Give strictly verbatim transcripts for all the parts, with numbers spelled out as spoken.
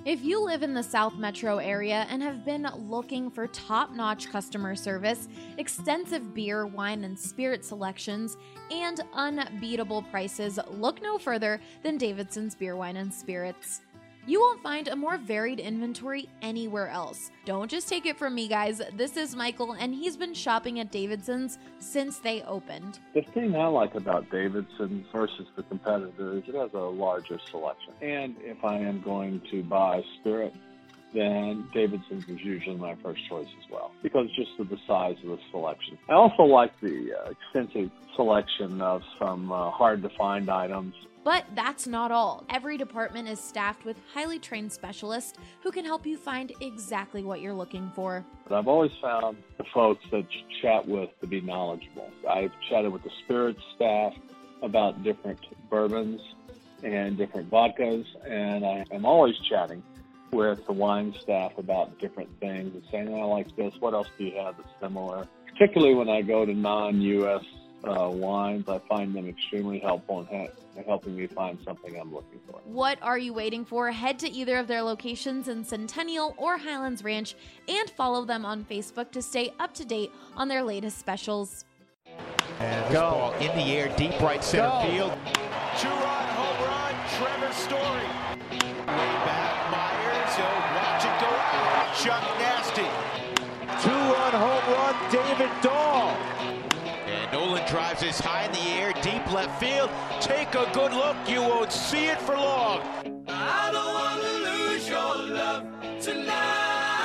If you live in the South Metro area and have been looking for top-notch customer service, extensive beer, wine, and spirit selections, and unbeatable prices, look no further than Davidson's Beer, Wine, and Spirits. You won't find a more varied inventory anywhere else. Don't just take it from me, guys. This is Michael, and he's been shopping at Davidson's since they opened. The thing I like about Davidson's versus the competitor is it has a larger selection. And if I am going to buy spirit, then Davidson's is usually my first choice as well, because just of the size of the selection. I also like the uh, extensive selection of some uh, hard-to-find items. But that's not all. Every department is staffed with highly trained specialists who can help you find exactly what you're looking for. But I've always found the folks that you chat with to be knowledgeable. I've chatted with the spirits staff about different bourbons and different vodkas, and I am always chatting with the wine staff about different things and saying, I like this, what else do you have that's similar? Particularly when I go to non-U S uh, wines, I find them extremely helpful in ha- helping me find something I'm looking for. What are you waiting for? Head to either of their locations in Centennial or Highlands Ranch and follow them on Facebook to stay up to date on their latest specials. And this ball in the air, deep right center Go. field. Two-run home run, Trevor Story. Way back, Myers, he'll watch it go out. Chuck Nasty. Two-run home run, David Dahl. And Nolan drives this high in the air, deep left field. Take a good look, you won't see it for long. I don't want to lose your love tonight.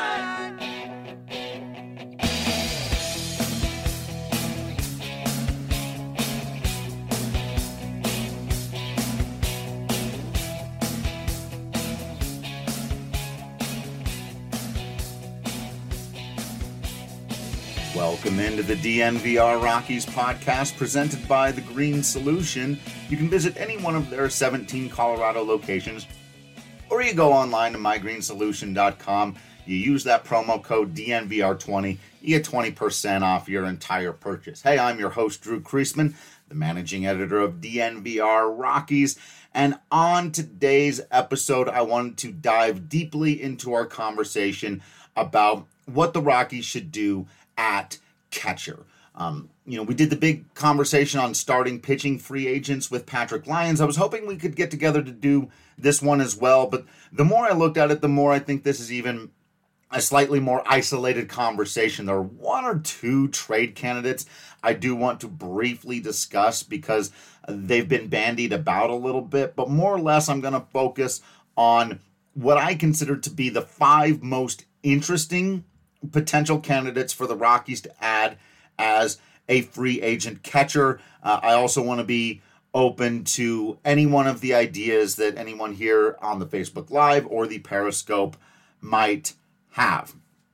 Welcome into the D N V R Rockies podcast presented by The Green Solution. You can visit any one of their seventeen Colorado locations, or you go online to my green solution dot com. You use that promo code D N V R twenty, you get twenty percent off your entire purchase. Hey, I'm your host, Drew Kreisman, the managing editor of D N V R Rockies. And on today's episode, I wanted to dive deeply into our conversation about what the Rockies should do at catcher. Um, you know, we did the big conversation on starting pitching free agents with Patrick Lyons. I was hoping we could get together to do this one as well, but the more I looked at it, the more I think this is even a slightly more isolated conversation. There are one or two trade candidates I do want to briefly discuss because they've been bandied about a little bit, but more or less I'm going to focus on what I consider to be the five most interesting potential candidates for the Rockies to add as a free agent catcher. Uh, I also want to be open to any one of the ideas that anyone here on the Facebook Live or the Periscope might have.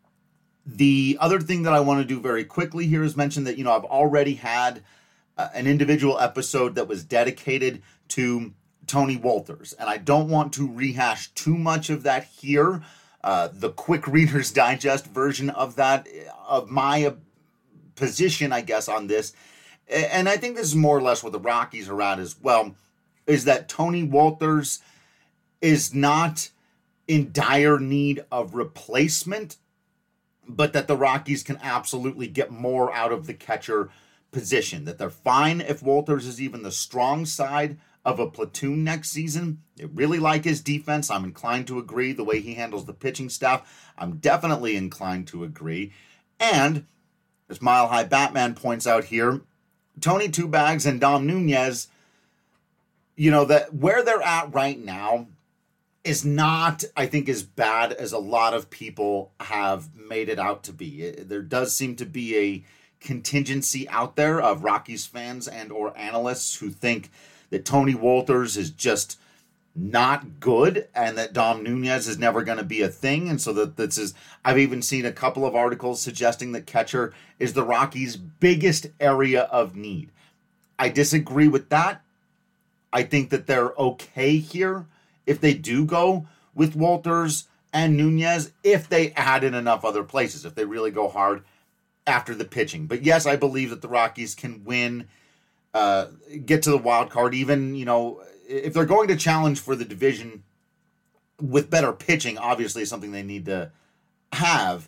The other thing that I want to do very quickly here is mention that, you know, I've already had uh, an individual episode that was dedicated to Tony Wolters, and I don't want to rehash too much of that here. Uh, the quick Reader's Digest version of that, of my uh, position, I guess, on this, and I think this is more or less what the Rockies are at as well, is that Tony Wolters is not in dire need of replacement, but that the Rockies can absolutely get more out of the catcher position, that they're fine if Wolters is even the strong side of a platoon next season. They really like his defense. I'm inclined to agree. The way he handles the pitching staff, I'm definitely inclined to agree. And, as Mile High Batman points out here, Tony Two Bags and Dom Nunez, you know, that where they're at right now is not, I think, as bad as a lot of people have made it out to be. There does seem to be a contingency out there of Rockies fans and or analysts who think that Tony Wolters is just not good and that Dom Nunez is never going to be a thing. And so that this is, I've even seen a couple of articles suggesting that catcher is the Rockies' biggest area of need. I disagree with that. I think that they're okay here if they do go with Wolters and Nunez, if they add in enough other places, if they really go hard after the pitching. But yes, I believe that the Rockies can win, uh, get to the wild card, even, you know, if they're going to challenge for the division, with better pitching, obviously, is something they need to have.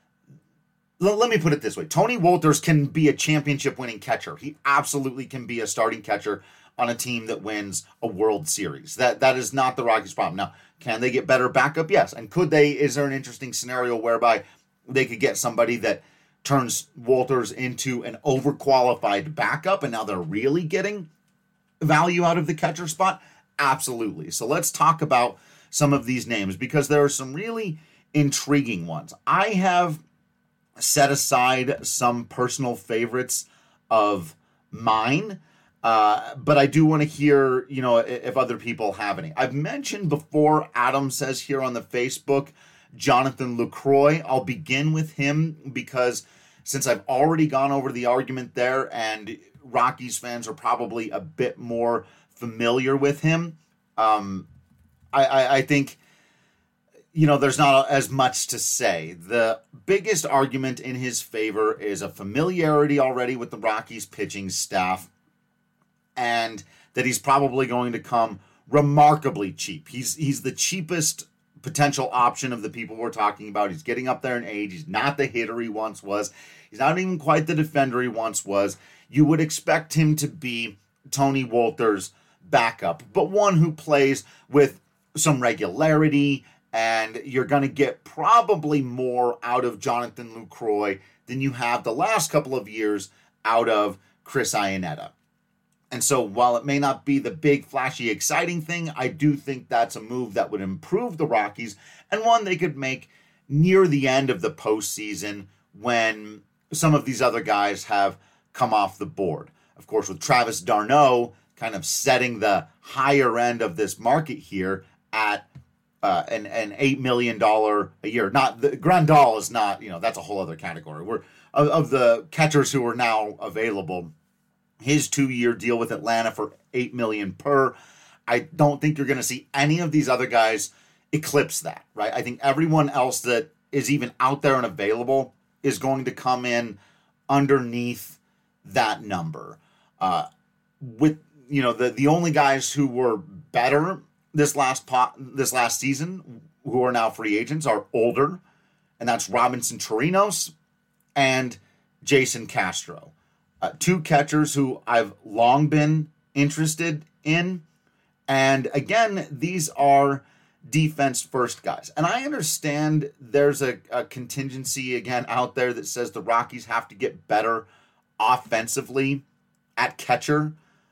L- let me put it this way. Tony Wolters can be a championship-winning catcher. He absolutely can be a starting catcher on a team that wins a World Series. That That is not the Rockies' problem. Now, can they get better backup? Yes. And could they, is there an interesting scenario whereby they could get somebody that turns Wolters into an overqualified backup, and now they're really getting value out of the catcher spot? Absolutely. So let's talk about some of these names, because there are some really intriguing ones. I have set aside some personal favorites of mine, uh, but I do want to hear, you know, if other people have any. I've mentioned before, Adam says here on the Facebook, Jonathan Lucroy. I'll begin with him because since I've already gone over the argument there and Rockies fans are probably a bit more familiar with him, um, I, I, I think, you know, there's not as much to say. The biggest argument in his favor is a familiarity already with the Rockies pitching staff and that he's probably going to come remarkably cheap. He's he's the cheapest potential option of the people we're talking about. He's getting up there in age. He's not the hitter he once was. He's not even quite the defender he once was. You would expect him to be Tony Wolters' backup, but one who plays with some regularity, and you're going to get probably more out of Jonathan Lucroy than you have the last couple of years out of Chris Iannetta. And so while it may not be the big, flashy, exciting thing, I do think that's a move that would improve the Rockies and one they could make near the end of the postseason when some of these other guys have come off the board. Of course, with Travis d'Arnaud kind of setting the higher end of this market here at uh, an, an eight million dollars a year. Not the Grandal is not, you know, that's a whole other category. We're of, of the catchers who are now available. His two-year deal with Atlanta for eight million dollars per. I don't think you're going to see any of these other guys eclipse that, right? I think everyone else that is even out there and available is going to come in underneath that number. Uh, with you know the the only guys who were better this last pot this last season who are now free agents are older, and that's Robinson Chirinos and Jason Castro. Uh, two catchers who I've long been interested in. And again, these are defense-first guys. And I understand there's a, a contingency, again, out there that says the Rockies have to get better offensively at catcher.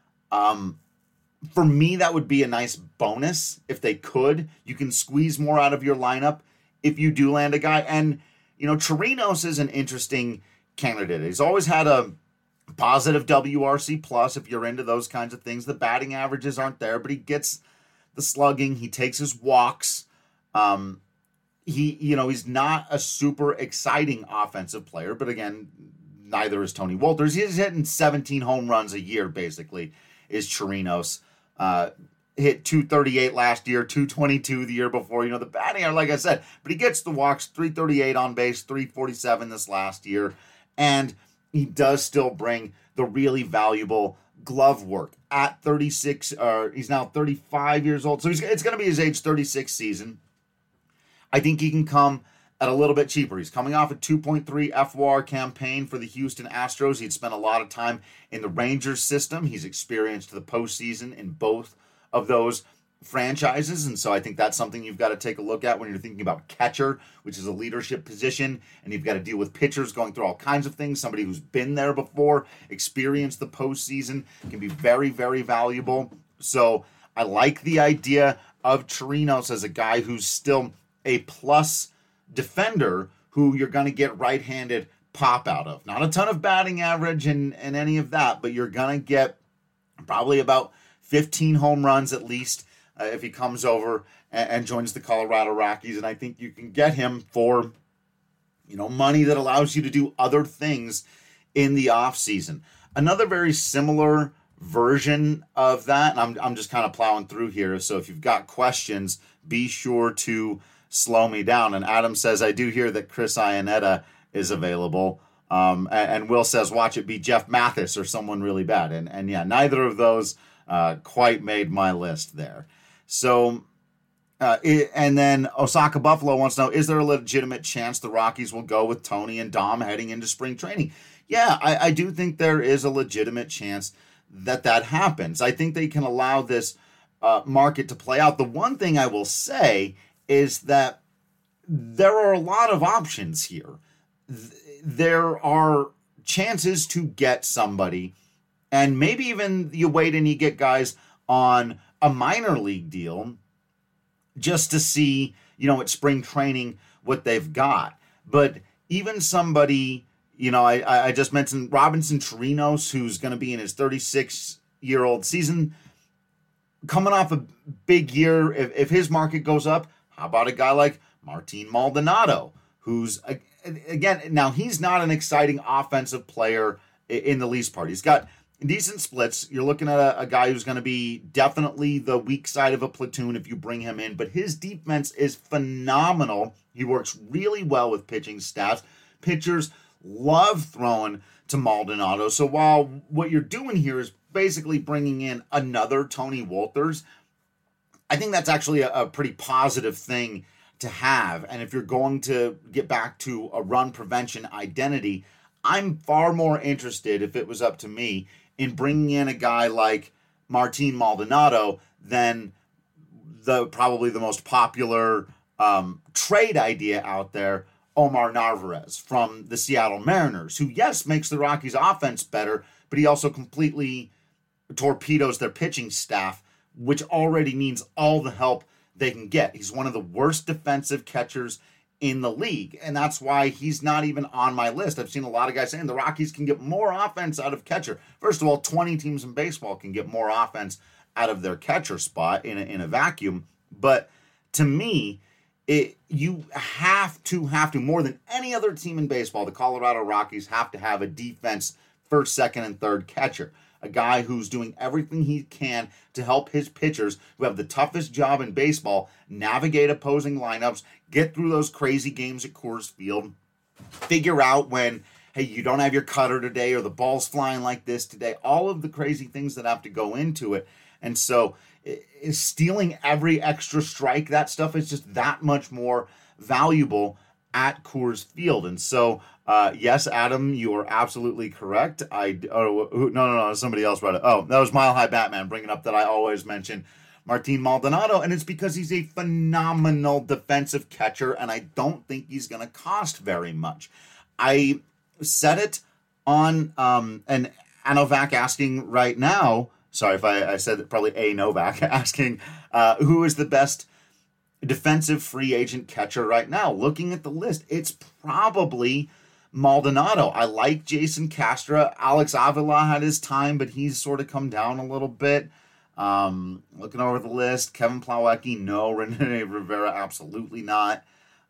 Um, for me, that would be a nice bonus if they could. You can squeeze more out of your lineup if you do land a guy. And, you know, Chirinos is an interesting candidate. He's always had a positive W R C plus if you're into those kinds of things. The batting averages aren't there, but he gets the slugging. He takes his walks. Um, he, you know, he's not a super exciting offensive player, but again, neither is Tony Wolters. He's hitting seventeen home runs a year, basically, is Chirinos. Uh, hit two thirty-eight last year, two twenty-two the year before. You know, the batting, like I said, but he gets the walks, three thirty-eight on base, three forty-seven this last year. And he does still bring the really valuable glove work at thirty-six. Uh, he's now thirty-five years old. So he's, it's going to be his age thirty-six season. I think he can come at a little bit cheaper. He's coming off a two point three F W A R campaign for the Houston Astros. He'd spent a lot of time in the Rangers system. He's experienced the postseason in both of those franchises, and so I think that's something you've got to take a look at when you're thinking about catcher, which is a leadership position, and you've got to deal with pitchers going through all kinds of things. Somebody who's been there before, experienced the postseason, can be very, very valuable. So I like the idea of Chirinos as a guy who's still a plus defender who you're going to get right-handed pop out of. Not a ton of batting average and, and any of that, but you're going to get probably about fifteen home runs at least Uh, if he comes over and, and joins the Colorado Rockies. And I think you can get him for, you know, money that allows you to do other things in the offseason. Another very similar version of that, and I'm, I'm just kind of plowing through here, so if you've got questions, be sure to slow me down. And Adam says, I do hear that Chris Iannetta is available. Um, and, and Will says, watch it be Jeff Mathis or someone really bad. And, and yeah, neither of those uh, quite made my list there. So Uh, it, and then Osaka Buffalo wants to know, is there a legitimate chance the Rockies will go with Tony and Dom heading into spring training? Yeah, I, I do think there is a legitimate chance that that happens. I think they can allow this uh, market to play out. The one thing I will say is that there are a lot of options here. There are chances to get somebody, and maybe even you wait and you get guys on a minor league deal just to see, you know, at spring training what they've got. But even somebody, you know, I, I just mentioned Robinson Chirinos, who's going to be in his thirty-six-year-old season, coming off a big year. If, if his market goes up, how about a guy like Martin Maldonado, who's, again, now he's not an exciting offensive player in the least part. He's got decent splits. You're looking at a, a guy who's going to be definitely the weak side of a platoon if you bring him in, but his defense is phenomenal. He works really well with pitching staffs. Pitchers love throwing to Maldonado. So while what you're doing here is basically bringing in another Tony Wolters, I think that's actually a, a pretty positive thing to have. And if you're going to get back to a run prevention identity, I'm far more interested, if it was up to me, in bringing in a guy like Martin Maldonado than the probably the most popular um, trade idea out there, Omar Narvaez from the Seattle Mariners, who, yes, makes the Rockies' offense better, but he also completely torpedoes their pitching staff, which already needs all the help they can get. He's one of the worst defensive catchers in the league, and that's why he's not even on my list. I've seen a lot of guys saying the Rockies can get more offense out of catcher. First of all, twenty teams in baseball can get more offense out of their catcher spot in a, in a vacuum. But to me, it you have to, have to, more than any other team in baseball, the Colorado Rockies have to have a defense first, second, and third catcher. A guy who's doing everything he can to help his pitchers, who have the toughest job in baseball, navigate opposing lineups, get through those crazy games at Coors Field, figure out when, hey, you don't have your cutter today or the ball's flying like this today, all of the crazy things that have to go into it. And so is stealing every extra strike, that stuff is just that much more valuable at Coors Field. And so, uh, yes, Adam, you are absolutely correct. I oh, no, no, no, somebody else wrote it. Oh, that was Mile High Batman bringing up that I always mention Martin Maldonado, and it's because he's a phenomenal defensive catcher, and I don't think he's going to cost very much. I said it on um, an Anovac asking right now, sorry if I, I said it, probably a Novak, asking uh, who is the best defensive free agent catcher right now. Looking at the list, it's probably Maldonado. I like Jason Castro. Alex Avila had his time, but he's sort of come down a little bit. Um, looking over the list, Kevin Plawecki, no. Rene Rivera, absolutely not.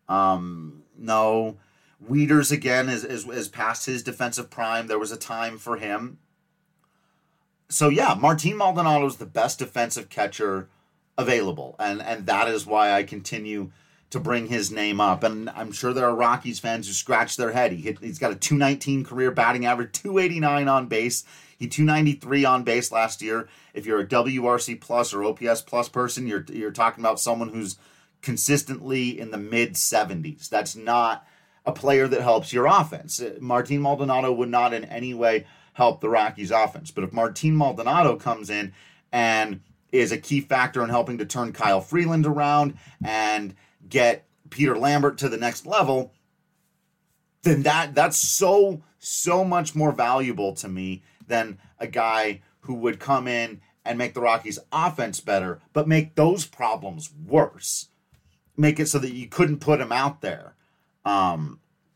Um, no. Wieters, again, is, is, is past his defensive prime. There was a time for him. So, yeah, Martin Maldonado is the best defensive catcher available, and, and that is why I continue to bring his name up. And I'm sure there are Rockies fans who scratch their head. He hit, he's got a two nineteen career batting average, two eighty-nine on base. He two ninety-three on base last year. If you're a W R C plus or O P S plus person, you're you're talking about someone who's consistently in the mid seventies. That's not a player that helps your offense. Martin Maldonado would not in any way help the Rockies offense. But if Martin Maldonado comes in and is a key factor in helping to turn Kyle Freeland around and get Peter Lambert to the next level, then that that's so, so much more valuable to me than a guy who would come in and make the Rockies offense better, but make those problems worse. Make it so that you couldn't put him out there. Um,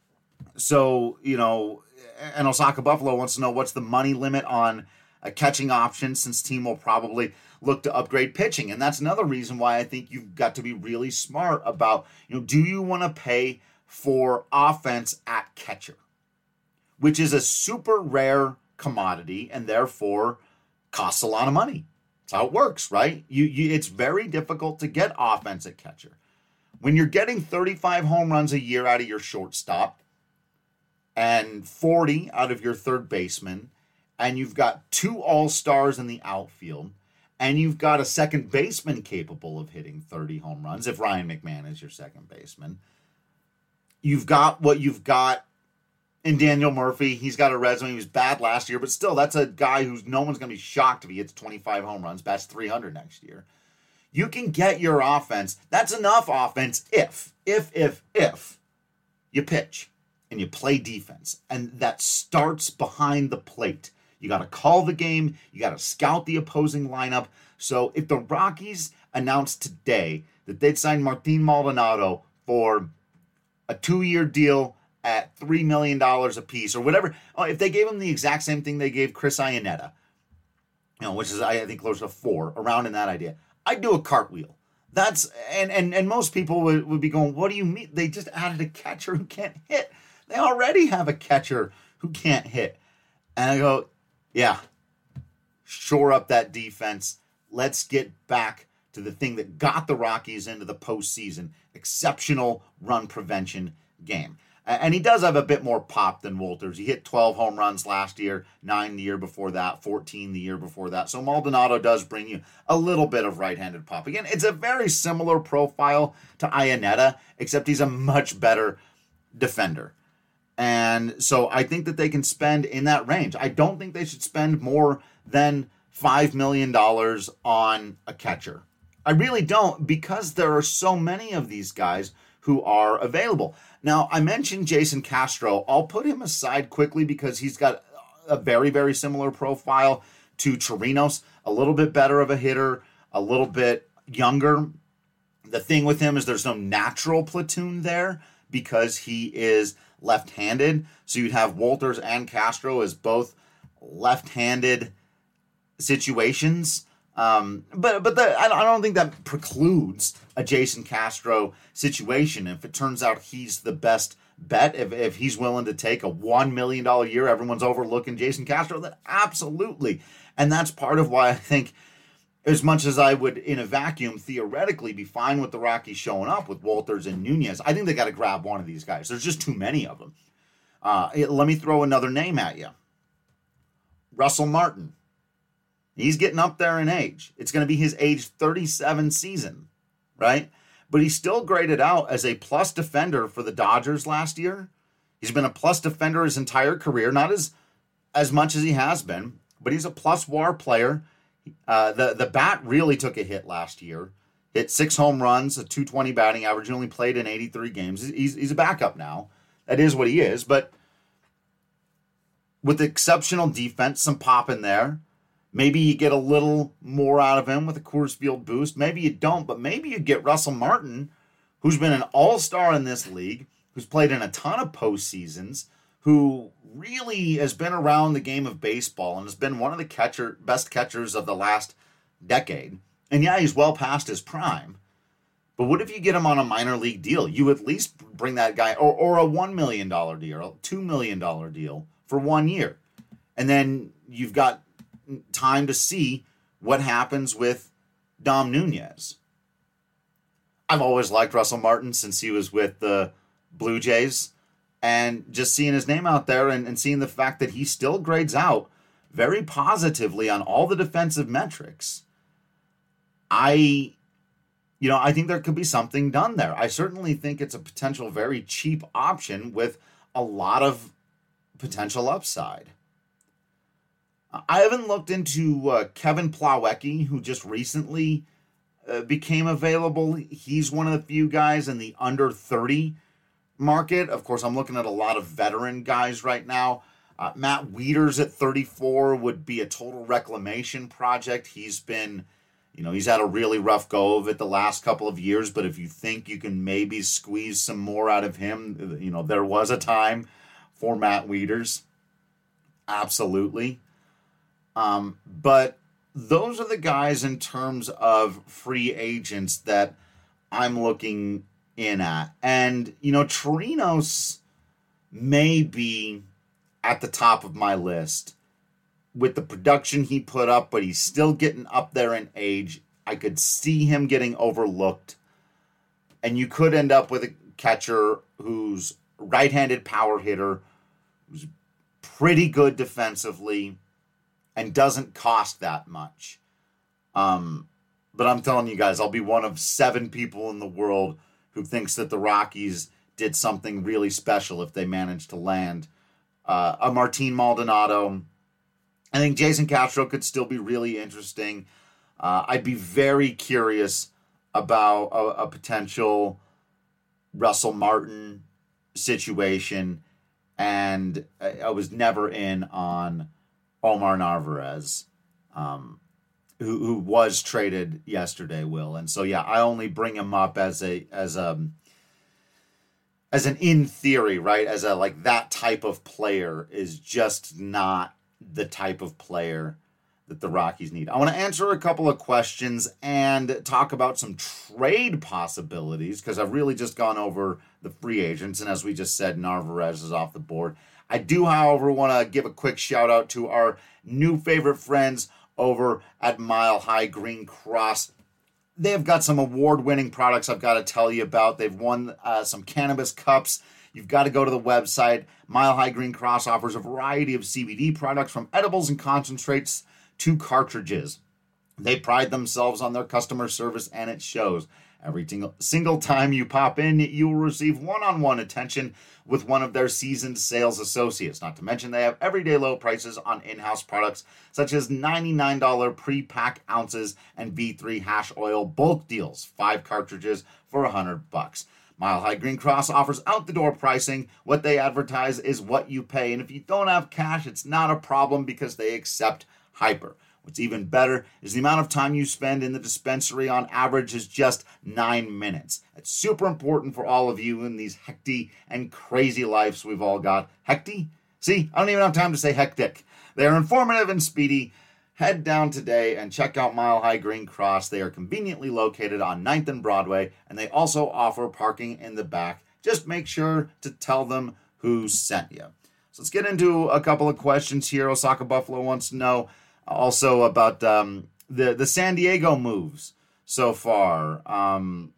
so, you know, and Osaka Buffalo wants to know what's the money limit on a catching option, since team will probably look to upgrade pitching. And that's another reason why I think you've got to be really smart about, you know, do you want to pay for offense at catcher, which is a super rare commodity and therefore costs a lot of money. That's how it works, right? You, you it's very difficult to get offense at catcher. When you're getting thirty-five home runs a year out of your shortstop and forty out of your third baseman, and you've got two all-stars in the outfield, and you've got a second baseman capable of hitting thirty home runs, if Ryan McMahon is your second baseman. You've got what you've got in Daniel Murphy. He's got a resume. He was bad last year, but still, that's a guy who's no one's going to be shocked if he hits twenty-five home runs, bats three hundred next year. You can get your offense. That's enough offense if, if, if, if you pitch and you play defense. And that starts behind the plate. You got to call the game. You got to scout the opposing lineup. So if the Rockies announced today that they'd sign Martin Maldonado for a two-year deal at three million dollars a piece or whatever, oh, if they gave him the exact same thing they gave Chris Iannetta, you know, which is, I think, close to four, around in that idea, I'd do a cartwheel. That's, and, and, and most people would, would be going, what do you mean? They just added a catcher who can't hit. They already have a catcher who can't hit. And I go, yeah, shore up that defense. Let's get back to the thing that got the Rockies into the postseason, exceptional run prevention game. And he does have a bit more pop than Wolters. He hit twelve home runs last year, nine the year before that, fourteen the year before that. So Maldonado does bring you a little bit of right-handed pop. Again, it's a very similar profile to Iannetta, except he's a much better defender. And so I think that they can spend in that range. I don't think they should spend more than five million dollars on a catcher. I really don't, because there are so many of these guys who are available. Now, I mentioned Jason Castro. I'll put him aside quickly because he's got a very, very similar profile to Chirinos, a little bit better of a hitter, a little bit younger. The thing with him is there's no natural platoon there because he is left-handed. So you'd have Wolters and Castro as both left-handed situations. Um, but but the, I don't think that precludes a Jason Castro situation. If it turns out he's the best bet, if, if he's willing to take a one million dollars a year, everyone's overlooking Jason Castro, then absolutely. And that's part of why I think, as much as I would, in a vacuum, theoretically be fine with the Rockies showing up with Wolters and Nunez, I think they got to grab one of these guys. There's just too many of them. Uh, let me throw another name at you. Russell Martin. He's getting up there in age. It's going to be his age thirty-seven season, right? But he's still graded out as a plus defender for the Dodgers last year. He's been a plus defender his entire career, not as as much as he has been, but he's a plus W A R player. Uh, the, the bat really took a hit last year. Hit six home runs, a two twenty batting average. He only played in eighty-three games. He's, he's a backup now. That is what he is. But with exceptional defense, some pop in there. Maybe you get a little more out of him with a Coors Field boost. Maybe you don't, but maybe you get Russell Martin, who's been an all-star in this league, who's played in a ton of postseasons, who really has been around the game of baseball and has been one of the catcher best catchers of the last decade. And yeah, he's well past his prime. But what if you get him on a minor league deal? You at least bring that guy, or, or a one million dollars deal, or a two million dollars deal for one year. And then you've got time to see what happens with Dom Nunez. I've always liked Russell Martin since he was with the Blue Jays, and just seeing his name out there and, and seeing the fact that he still grades out very positively on all the defensive metrics, I, you know, I think there could be something done there. I certainly think it's a potential very cheap option with a lot of potential upside. I haven't looked into uh, Kevin Plawecki, who just recently uh, became available. He's one of the few guys in the under thirty market. Of course, I'm looking at a lot of veteran guys right now. Uh, Matt Wieters at thirty-four would be a total reclamation project. He's been, you know, he's had a really rough go of it the last couple of years, but if you think you can maybe squeeze some more out of him, you know, there was a time for Matt Wieters. Absolutely. Um, but those are the guys in terms of free agents that I'm looking in at. And, you know, Chirinos may be at the top of my list with the production he put up, but he's still getting up there in age. I could see him getting overlooked. And you could end up with a catcher who's right-handed power hitter, who's pretty good defensively, and doesn't cost that much. Um, but I'm telling you guys, I'll be one of seven people in the world who thinks that the Rockies did something really special if they managed to land uh, a Martin Maldonado. I think Jason Castro could still be really interesting. Uh, I'd be very curious about a, a potential Russell Martin situation, and I, I was never in on Omar Narvaez, um, who who was traded yesterday, Will. And so yeah, I only bring him up as a as a as an in theory, right? As a like that type of player is just not the type of player that the Rockies need. I want to answer a couple of questions and talk about some trade possibilities, because I've really just gone over the free agents, and as we just said, Narvaez is off the board. I do, however, want to give a quick shout out to our new favorite friends over at Mile High Green Cross. They've got some award-winning products I've got to tell you about. They've won uh, some cannabis cups. You've got to go to the website. Mile High Green Cross offers a variety of C B D products, from edibles and concentrates to cartridges. They pride themselves on their customer service, and it shows. Every single, single time you pop in, you will receive one-on-one attention with one of their seasoned sales associates. Not to mention they have everyday low prices on in-house products such as ninety-nine dollars pre-pack ounces and V three hash oil bulk deals, five cartridges for one hundred bucks. Mile High Green Cross offers out-the-door pricing. What they advertise is what you pay, and if you don't have cash, it's not a problem because they accept Hyper. What's even better is the amount of time you spend in the dispensary on average is just nine minutes. It's super important for all of you in these hectic and crazy lives we've all got. Hectic? See, I don't even have time to say hectic. They are informative and speedy. Head down today and check out Mile High Green Cross. They are conveniently located on ninth and Broadway, and they also offer parking in the back. Just make sure to tell them who sent you. So let's get into a couple of questions here. Osaka Buffalo wants to know also about um, the, the San Diego moves so far. Um,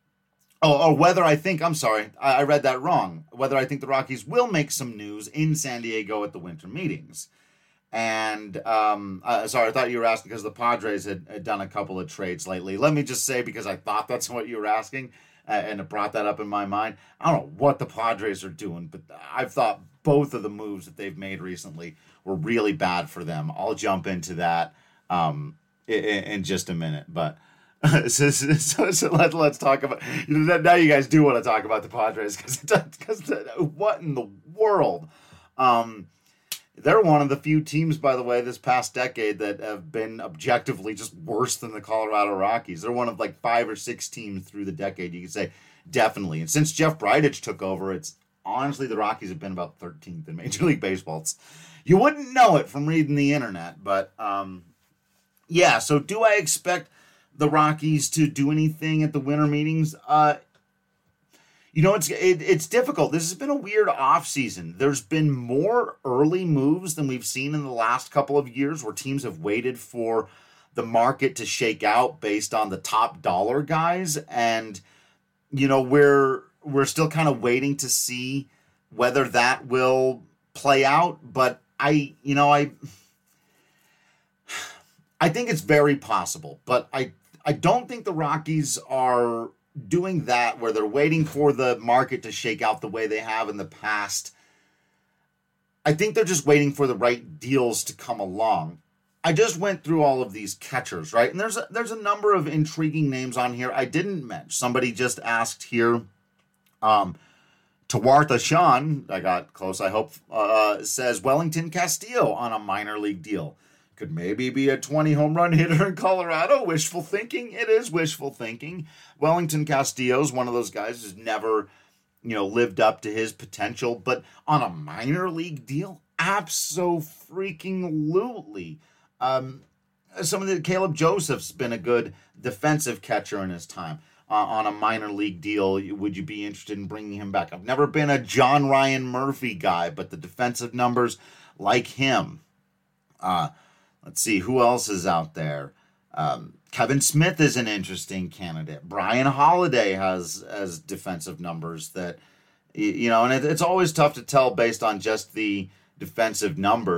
oh, or whether I think, I'm sorry, I, I read that wrong. Whether I think the Rockies will make some news in San Diego at the winter meetings. And, um, uh, sorry, I thought you were asking because the Padres had, had done a couple of trades lately. Let me just say, because I thought that's what you were asking, uh, and it brought that up in my mind. I don't know what the Padres are doing, but I've thought both of the moves that they've made recently were really bad for them. I'll jump into that um, in, in just a minute. But so, so, so let, let's talk about, you know, now you guys do want to talk about the Padres, because what in the world? Um, they're one of the few teams, by the way, this past decade that have been objectively just worse than the Colorado Rockies. They're one of like five or six teams through the decade, you could say, definitely. And since Jeff Bridich took over, it's honestly, the Rockies have been about thirteenth in Major League Baseball. It's, you wouldn't know it from reading the internet, but um, yeah, so do I expect the Rockies to do anything at the winter meetings? Uh, you know, it's it, it's difficult. This has been a weird offseason. There's been more early moves than we've seen in the last couple of years, where teams have waited for the market to shake out based on the top dollar guys. And, you know, we're, we're still kind of waiting to see whether that will play out. But I, you know, I, I think it's very possible, but I, I don't think the Rockies are doing that where they're waiting for the market to shake out the way they have in the past. I think they're just waiting for the right deals to come along. I just went through all of these catchers, right? And there's a, there's a number of intriguing names on here I didn't mention. Somebody just asked here, um, Tawartha Sean, I got close, I hope, uh, says Wellington Castillo on a minor league deal. Could maybe be a twenty home run hitter in Colorado. Wishful thinking. It is wishful thinking. Wellington Castillo is one of those guys who's never, you know, lived up to his potential, but on a minor league deal, abso-freaking-lutely. Um, some of the Caleb Joseph's been a good defensive catcher in his time. Uh, on a minor league deal, would you be interested in bringing him back? I've never been a John Ryan Murphy guy, but the defensive numbers like him. Uh, let's see, who else is out there? Um, Kevin Smith is an interesting candidate. Brian Holiday has, has defensive numbers that, you know, and it, it's always tough to tell based on just the defensive numbers,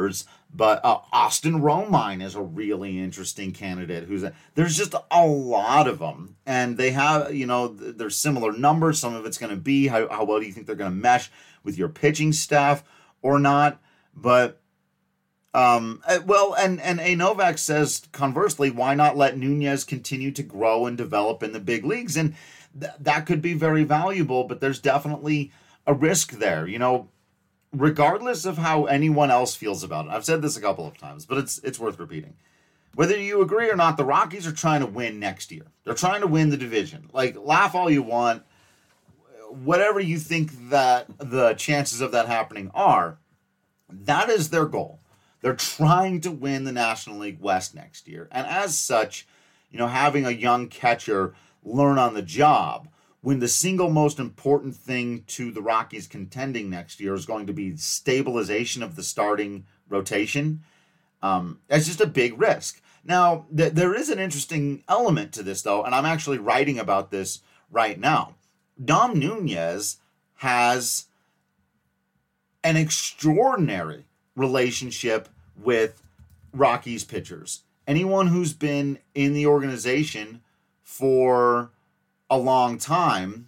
But uh, Austin Romine is a really interesting candidate. Who's a, there's just a lot of them, and they have, you know, there's similar numbers. Some of it's going to be how, how well do you think they're going to mesh with your pitching staff or not. But um, well, and and A. Novak says conversely, why not let Nunez continue to grow and develop in the big leagues? And th- that could be very valuable. But there's definitely a risk there, you know. Regardless of how anyone else feels about it, I've said this a couple of times, but it's it's worth repeating. Whether you agree or not, the Rockies are trying to win next year. They're trying to win the division. Like, laugh all you want. Whatever you think that the chances of that happening are, that is their goal. They're trying to win the National League West next year. And as such, you know, having a young catcher learn on the job, when the single most important thing to the Rockies contending next year is going to be stabilization of the starting rotation, um, that's just a big risk. Now, th- there is an interesting element to this, though, and I'm actually writing about this right now. Dom Nunez has an extraordinary relationship with Rockies pitchers. Anyone who's been in the organization for a long time,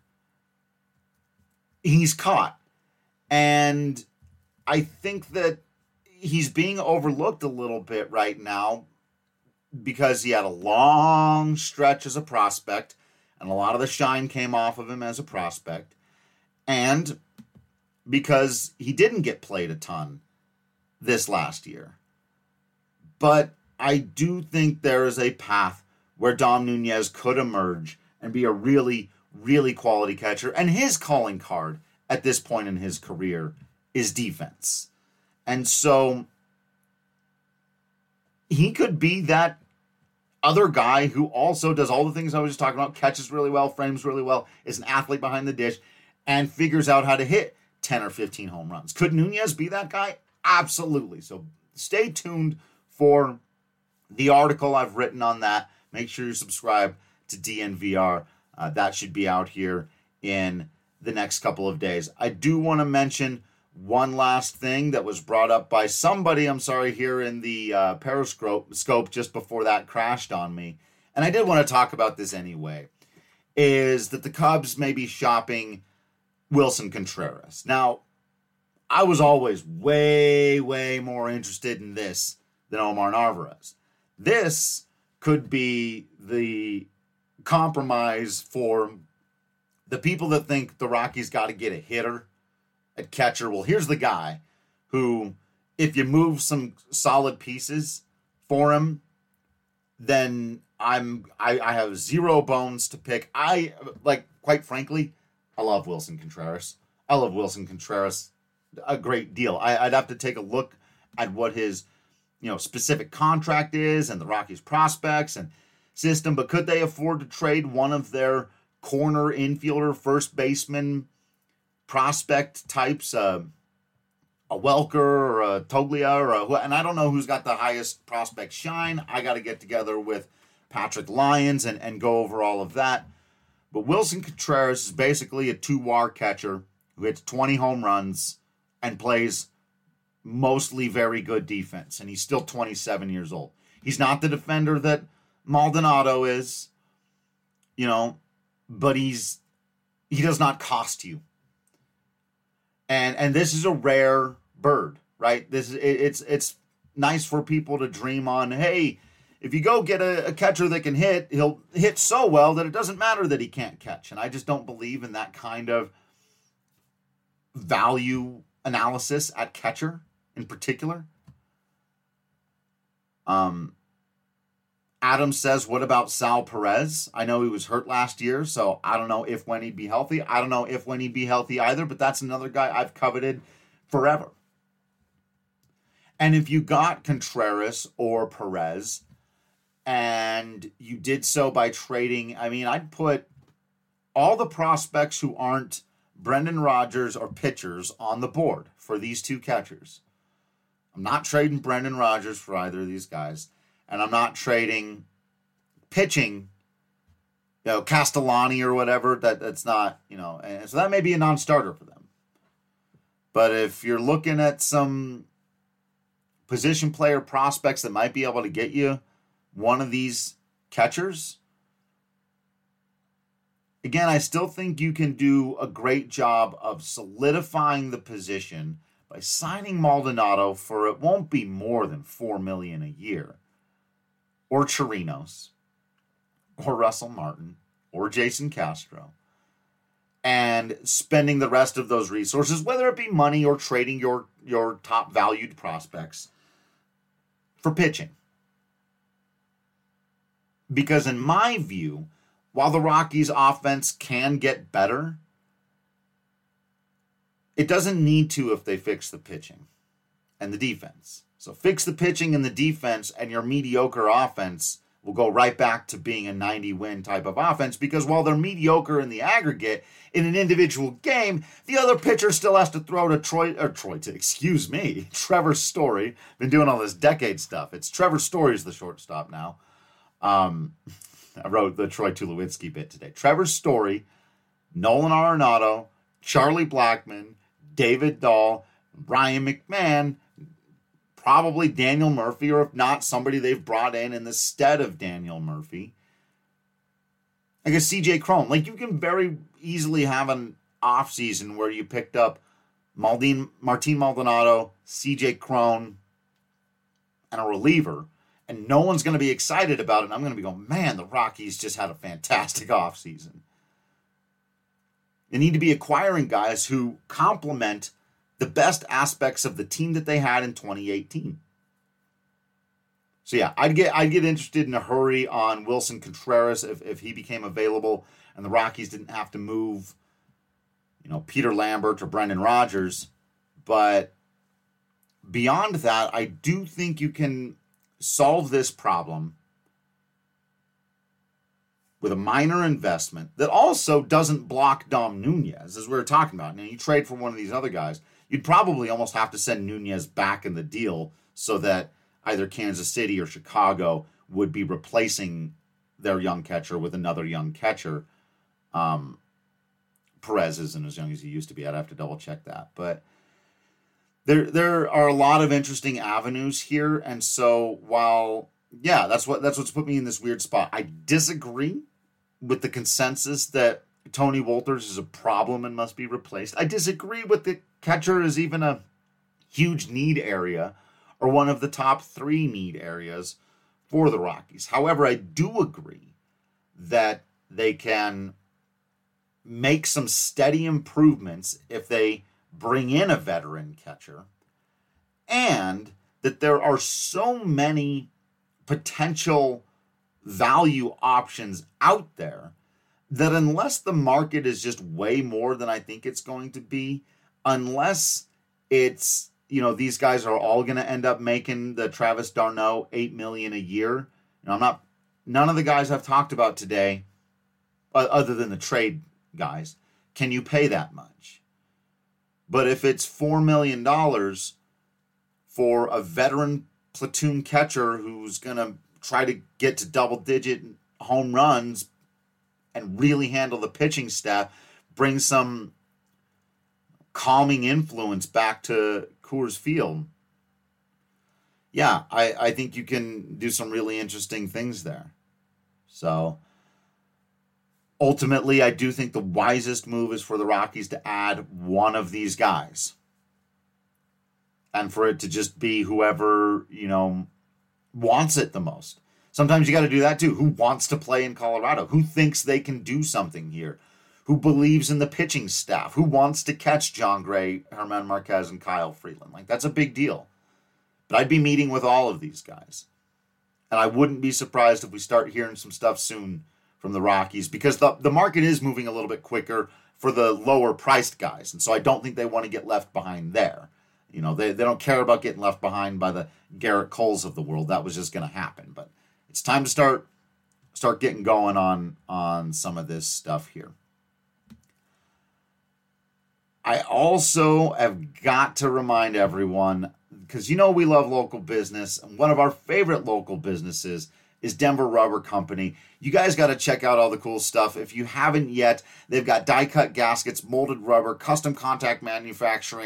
he's caught. And I think that he's being overlooked a little bit right now because he had a long stretch as a prospect, and a lot of the shine came off of him as a prospect, and because he didn't get played a ton this last year. But I do think there is a path where Dom Nunez could emerge and be a really, really quality catcher. And his calling card at this point in his career is defense. And so he could be that other guy who also does all the things I was just talking about, catches really well, frames really well, is an athlete behind the dish, and figures out how to hit ten or fifteen home runs. Could Nunez be that guy? Absolutely. So stay tuned for the article I've written on that. Make sure you subscribe to D N V R. Uh, that should be out here in the next couple of days. I do want to mention one last thing that was brought up by somebody, I'm sorry, here in the uh, Periscope scope just before that crashed on me. And I did want to talk about this anyway, is that the Cubs may be shopping Wilson Contreras. Now, I was always way, way more interested in this than Omar Narvaez. This could be the compromise for the people that think the Rockies got to get a hitter at catcher. Well, here's the guy who, if you move some solid pieces for him, then I'm I, I have zero bones to pick. I like, quite frankly, I love Wilson Contreras. I love Wilson Contreras a great deal. I, I'd have to take a look at what his, you know, specific contract is and the Rockies prospects and system, but could they afford to trade one of their corner infielder, first baseman prospect types, uh, a Welker or a Toglia, or a, and I don't know who's got the highest prospect shine. I got to get together with Patrick Lyons and, and go over all of that. But Wilson Contreras is basically a two-war catcher who hits twenty home runs and plays mostly very good defense, and he's still twenty-seven years old. He's not the defender that Maldonado is, you know, but he's he does not cost you. And and this is a rare bird, right? This is it, it's it's nice for people to dream on. Hey, if you go get a, a catcher that can hit, he'll hit so well that it doesn't matter that he can't catch. And I just don't believe in that kind of value analysis at catcher in particular. Um. Adam says, what about Sal Perez? I know he was hurt last year, so I don't know if when he'd be healthy. I don't know if when he'd be healthy either, but that's another guy I've coveted forever. And if you got Contreras or Perez, and you did so by trading, I mean, I'd put all the prospects who aren't Brendan Rodgers or pitchers on the board for these two catchers. I'm not trading Brendan Rodgers for either of these guys. And I'm not trading pitching, you know, Castellani or whatever. That that's not, you know, and so that may be a non-starter for them. But if you're looking at some position player prospects that might be able to get you one of these catchers, again, I still think you can do a great job of solidifying the position by signing Maldonado for it won't be more than four million dollars a year, or Chirinos, or Russell Martin, or Jason Castro, and spending the rest of those resources, whether it be money or trading your, your top valued prospects, for pitching. Because in my view, while the Rockies' offense can get better, it doesn't need to if they fix the pitching and the defense. So fix the pitching and the defense, and your mediocre offense will go right back to being a ninety-win type of offense, because while they're mediocre in the aggregate, in an individual game, the other pitcher still has to throw to Troy, or Troy, to, excuse me, Trevor Story. Been doing all this decade stuff. It's Trevor Story's the shortstop now. Um, I wrote the Troy Tulowitzki bit today. Trevor Story, Nolan Arenado, Charlie Blackmon, David Dahl, Ryan McMahon, probably Daniel Murphy, or if not, somebody they've brought in in the stead of Daniel Murphy. I guess C J Cron. Like, you can very easily have an offseason where you picked up Maldin, Martin Maldonado, C J Cron, and a reliever, and no one's going to be excited about it. And I'm going to be going, man, the Rockies just had a fantastic offseason. They need to be acquiring guys who complement the best aspects of the team that they had in twenty eighteen. So yeah, I'd get I'd get interested in a hurry on Wilson Contreras if, if he became available and the Rockies didn't have to move, you know, Peter Lambert or Brendan Rodgers. But beyond that, I do think you can solve this problem with a minor investment that also doesn't block Dom Nunez, as we were talking about. Now, you trade for one of these other guys, you'd probably almost have to send Nunez back in the deal so that either Kansas City or Chicago would be replacing their young catcher with another young catcher. Um, Perez isn't as young as he used to be. I'd have to double check that. But there there are a lot of interesting avenues here. And so while, yeah, that's what that's what's put me in this weird spot. I disagree with the consensus that Tony Wolters is a problem and must be replaced. I disagree with the catcher is even a huge need area or one of the top three need areas for the Rockies. However, I do agree that they can make some steady improvements if they bring in a veteran catcher, and that there are so many potential value options out there that unless the market is just way more than I think it's going to be, unless it's, you know, these guys are all going to end up making the Travis d'Arnaud eight million dollars a year. You know, I'm not, none of the guys I've talked about today, other than the trade guys, can you pay that much? But if it's four million dollars for a veteran platoon catcher who's going to try to get to double-digit home runs and really handle the pitching staff, bring some calming influence back to Coors Field, yeah, I, I think you can do some really interesting things there. So ultimately, I do think the wisest move is for the Rockies to add one of these guys. And for it to just be whoever, you know, wants it the most. Sometimes you got to do that too. Who wants to play in Colorado? Who thinks they can do something here? Who believes in the pitching staff? Who wants to catch John Gray, Herman Marquez, and Kyle Freeland? Like, that's a big deal. But I'd be meeting with all of these guys. And I wouldn't be surprised if we start hearing some stuff soon from the Rockies, because the, the market is moving a little bit quicker for the lower priced guys. And so I don't think they want to get left behind there. You know, they, they don't care about getting left behind by the Garrett Coles of the world. That was just going to happen. But it's time to start start getting going on, on some of this stuff here. I also have got to remind everyone, because you know we love local business, and one of our favorite local businesses is Denver Rubber Company. You guys got to check out all the cool stuff. If you haven't yet, they've got die-cut gaskets, molded rubber, custom contact manufacturing,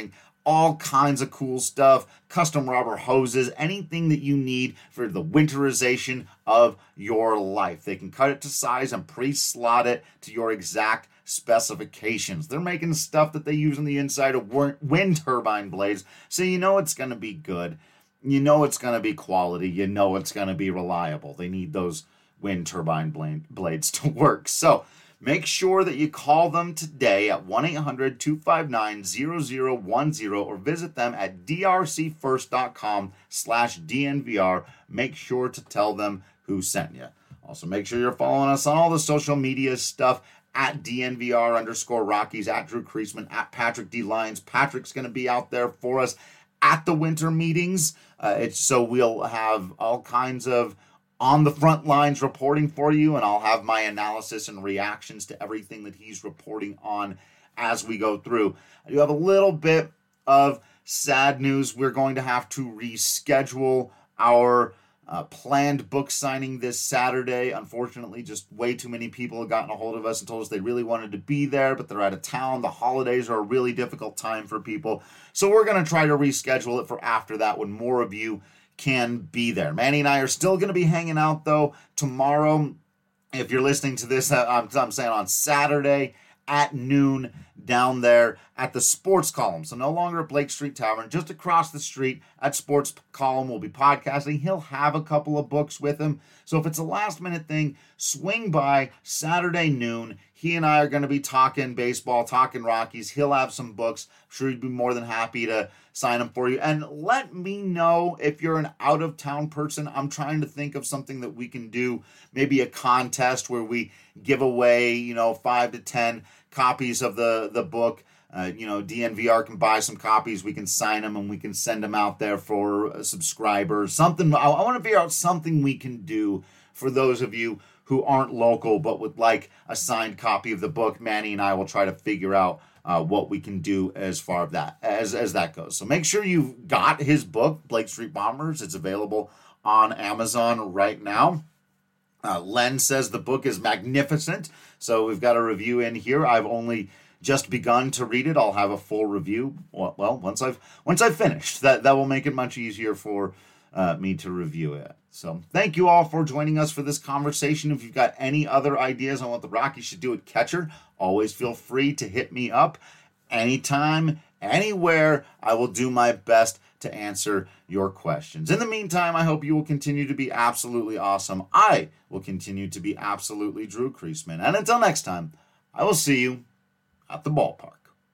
all kinds of cool stuff, custom rubber hoses, anything that you need for the winterization of your life. They can cut it to size and pre-slot it to your exact specifications. They're making stuff that they use on the inside of wind turbine blades, so you know it's going to be good. You know it's going to be quality. You know it's going to be reliable. They need those wind turbine blades to work. So make sure that you call them today at one eight hundred, two five nine, zero zero one zero or visit them at drcfirst.com slash DNVR. Make sure to tell them who sent you. Also, make sure you're following us on all the social media stuff at DNVR underscore Rockies, at Drew Creasman, at Patrick D. Lyons. Patrick's going to be out there for us at the winter meetings. Uh, it's so we'll have all kinds of on the front lines reporting for you, and I'll have my analysis and reactions to everything that he's reporting on as we go through. I do have a little bit of sad news. We're going to have to reschedule our uh, planned book signing this Saturday. Unfortunately, just way too many people have gotten a hold of us and told us they really wanted to be there, but they're out of town. The holidays are a really difficult time for people. So we're going to try to reschedule it for after that when more of you can be there. Manny and I are still going to be hanging out, though, tomorrow. If you're listening to this, I'm, I'm saying on Saturday at noon down there at the Sports Column. So no longer at Blake Street Tavern, just across the street at Sports Column. We'll be podcasting. He'll have a couple of books with him. So if it's a last minute thing, swing by Saturday noon. He and I are going to be talking baseball, talking Rockies. He'll have some books. I'm sure he'd be more than happy to sign them for you. And let me know if you're an out-of-town person. I'm trying to think of something that we can do. Maybe a contest where we give away, you know, five to ten copies of the, the book. Uh, you know, D N V R can buy some copies. We can sign them and we can send them out there for uh, subscribers. Something. I, I want to figure out something we can do for those of you who aren't local but would like a signed copy of the book. Manny and I will try to figure out uh, what we can do as far as that as as that goes. So make sure you've got his book, Blake Street Bombers. It's available on Amazon right now. Uh, Len says the book is magnificent. So we've got a review in here. I've only just begun to read it. I'll have a full review. Well, well once I've once I've finished, that that will make it much easier for uh, me to review it. So thank you all for joining us for this conversation. If you've got any other ideas on what the Rockies should do at catcher, always feel free to hit me up anytime, anywhere. I will do my best to answer your questions. In the meantime, I hope you will continue to be absolutely awesome. I will continue to be absolutely Drew Creasman. And until next time, I will see you at the ballpark.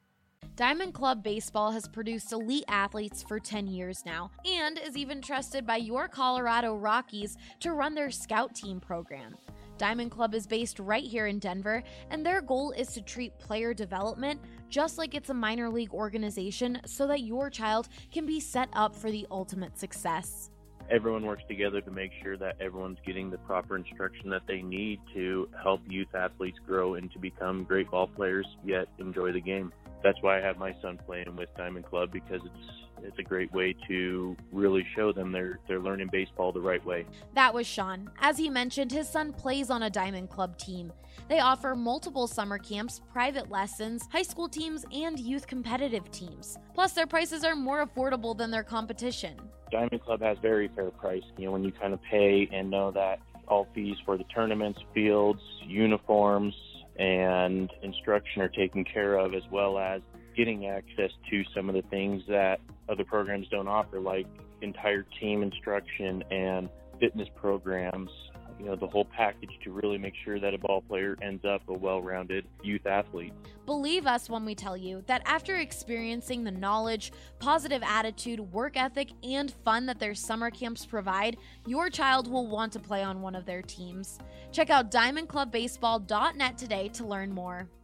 Diamond Club Baseball has produced elite athletes for ten years now and is even trusted by your Colorado Rockies to run their scout team program. Diamond Club is based right here in Denver, and their goal is to treat player development just like it's a minor league organization so that your child can be set up for the ultimate success. Everyone works together to make sure that everyone's getting the proper instruction that they need to help youth athletes grow and to become great ball players, yet enjoy the game. That's why I have my son playing with Diamond Club, because it's it's a great way to really show them they're they're learning baseball the right way. That was Sean. As he mentioned, his son plays on a Diamond Club team. They offer multiple summer camps, private lessons, high school teams, and youth competitive teams. Plus, their prices are more affordable than their competition. Diamond Club has very fair price. You know, when you kind of pay and know that all fees for the tournaments, fields, uniforms, and instruction are taken care of, as well as getting access to some of the things that other programs don't offer, like entire team instruction and fitness programs, you know, the whole package to really make sure that a ball player ends up a well-rounded youth athlete. Believe us when we tell you that after experiencing the knowledge, positive attitude, work ethic, and fun that their summer camps provide, your child will want to play on one of their teams. Check out diamond club baseball dot net today to learn more.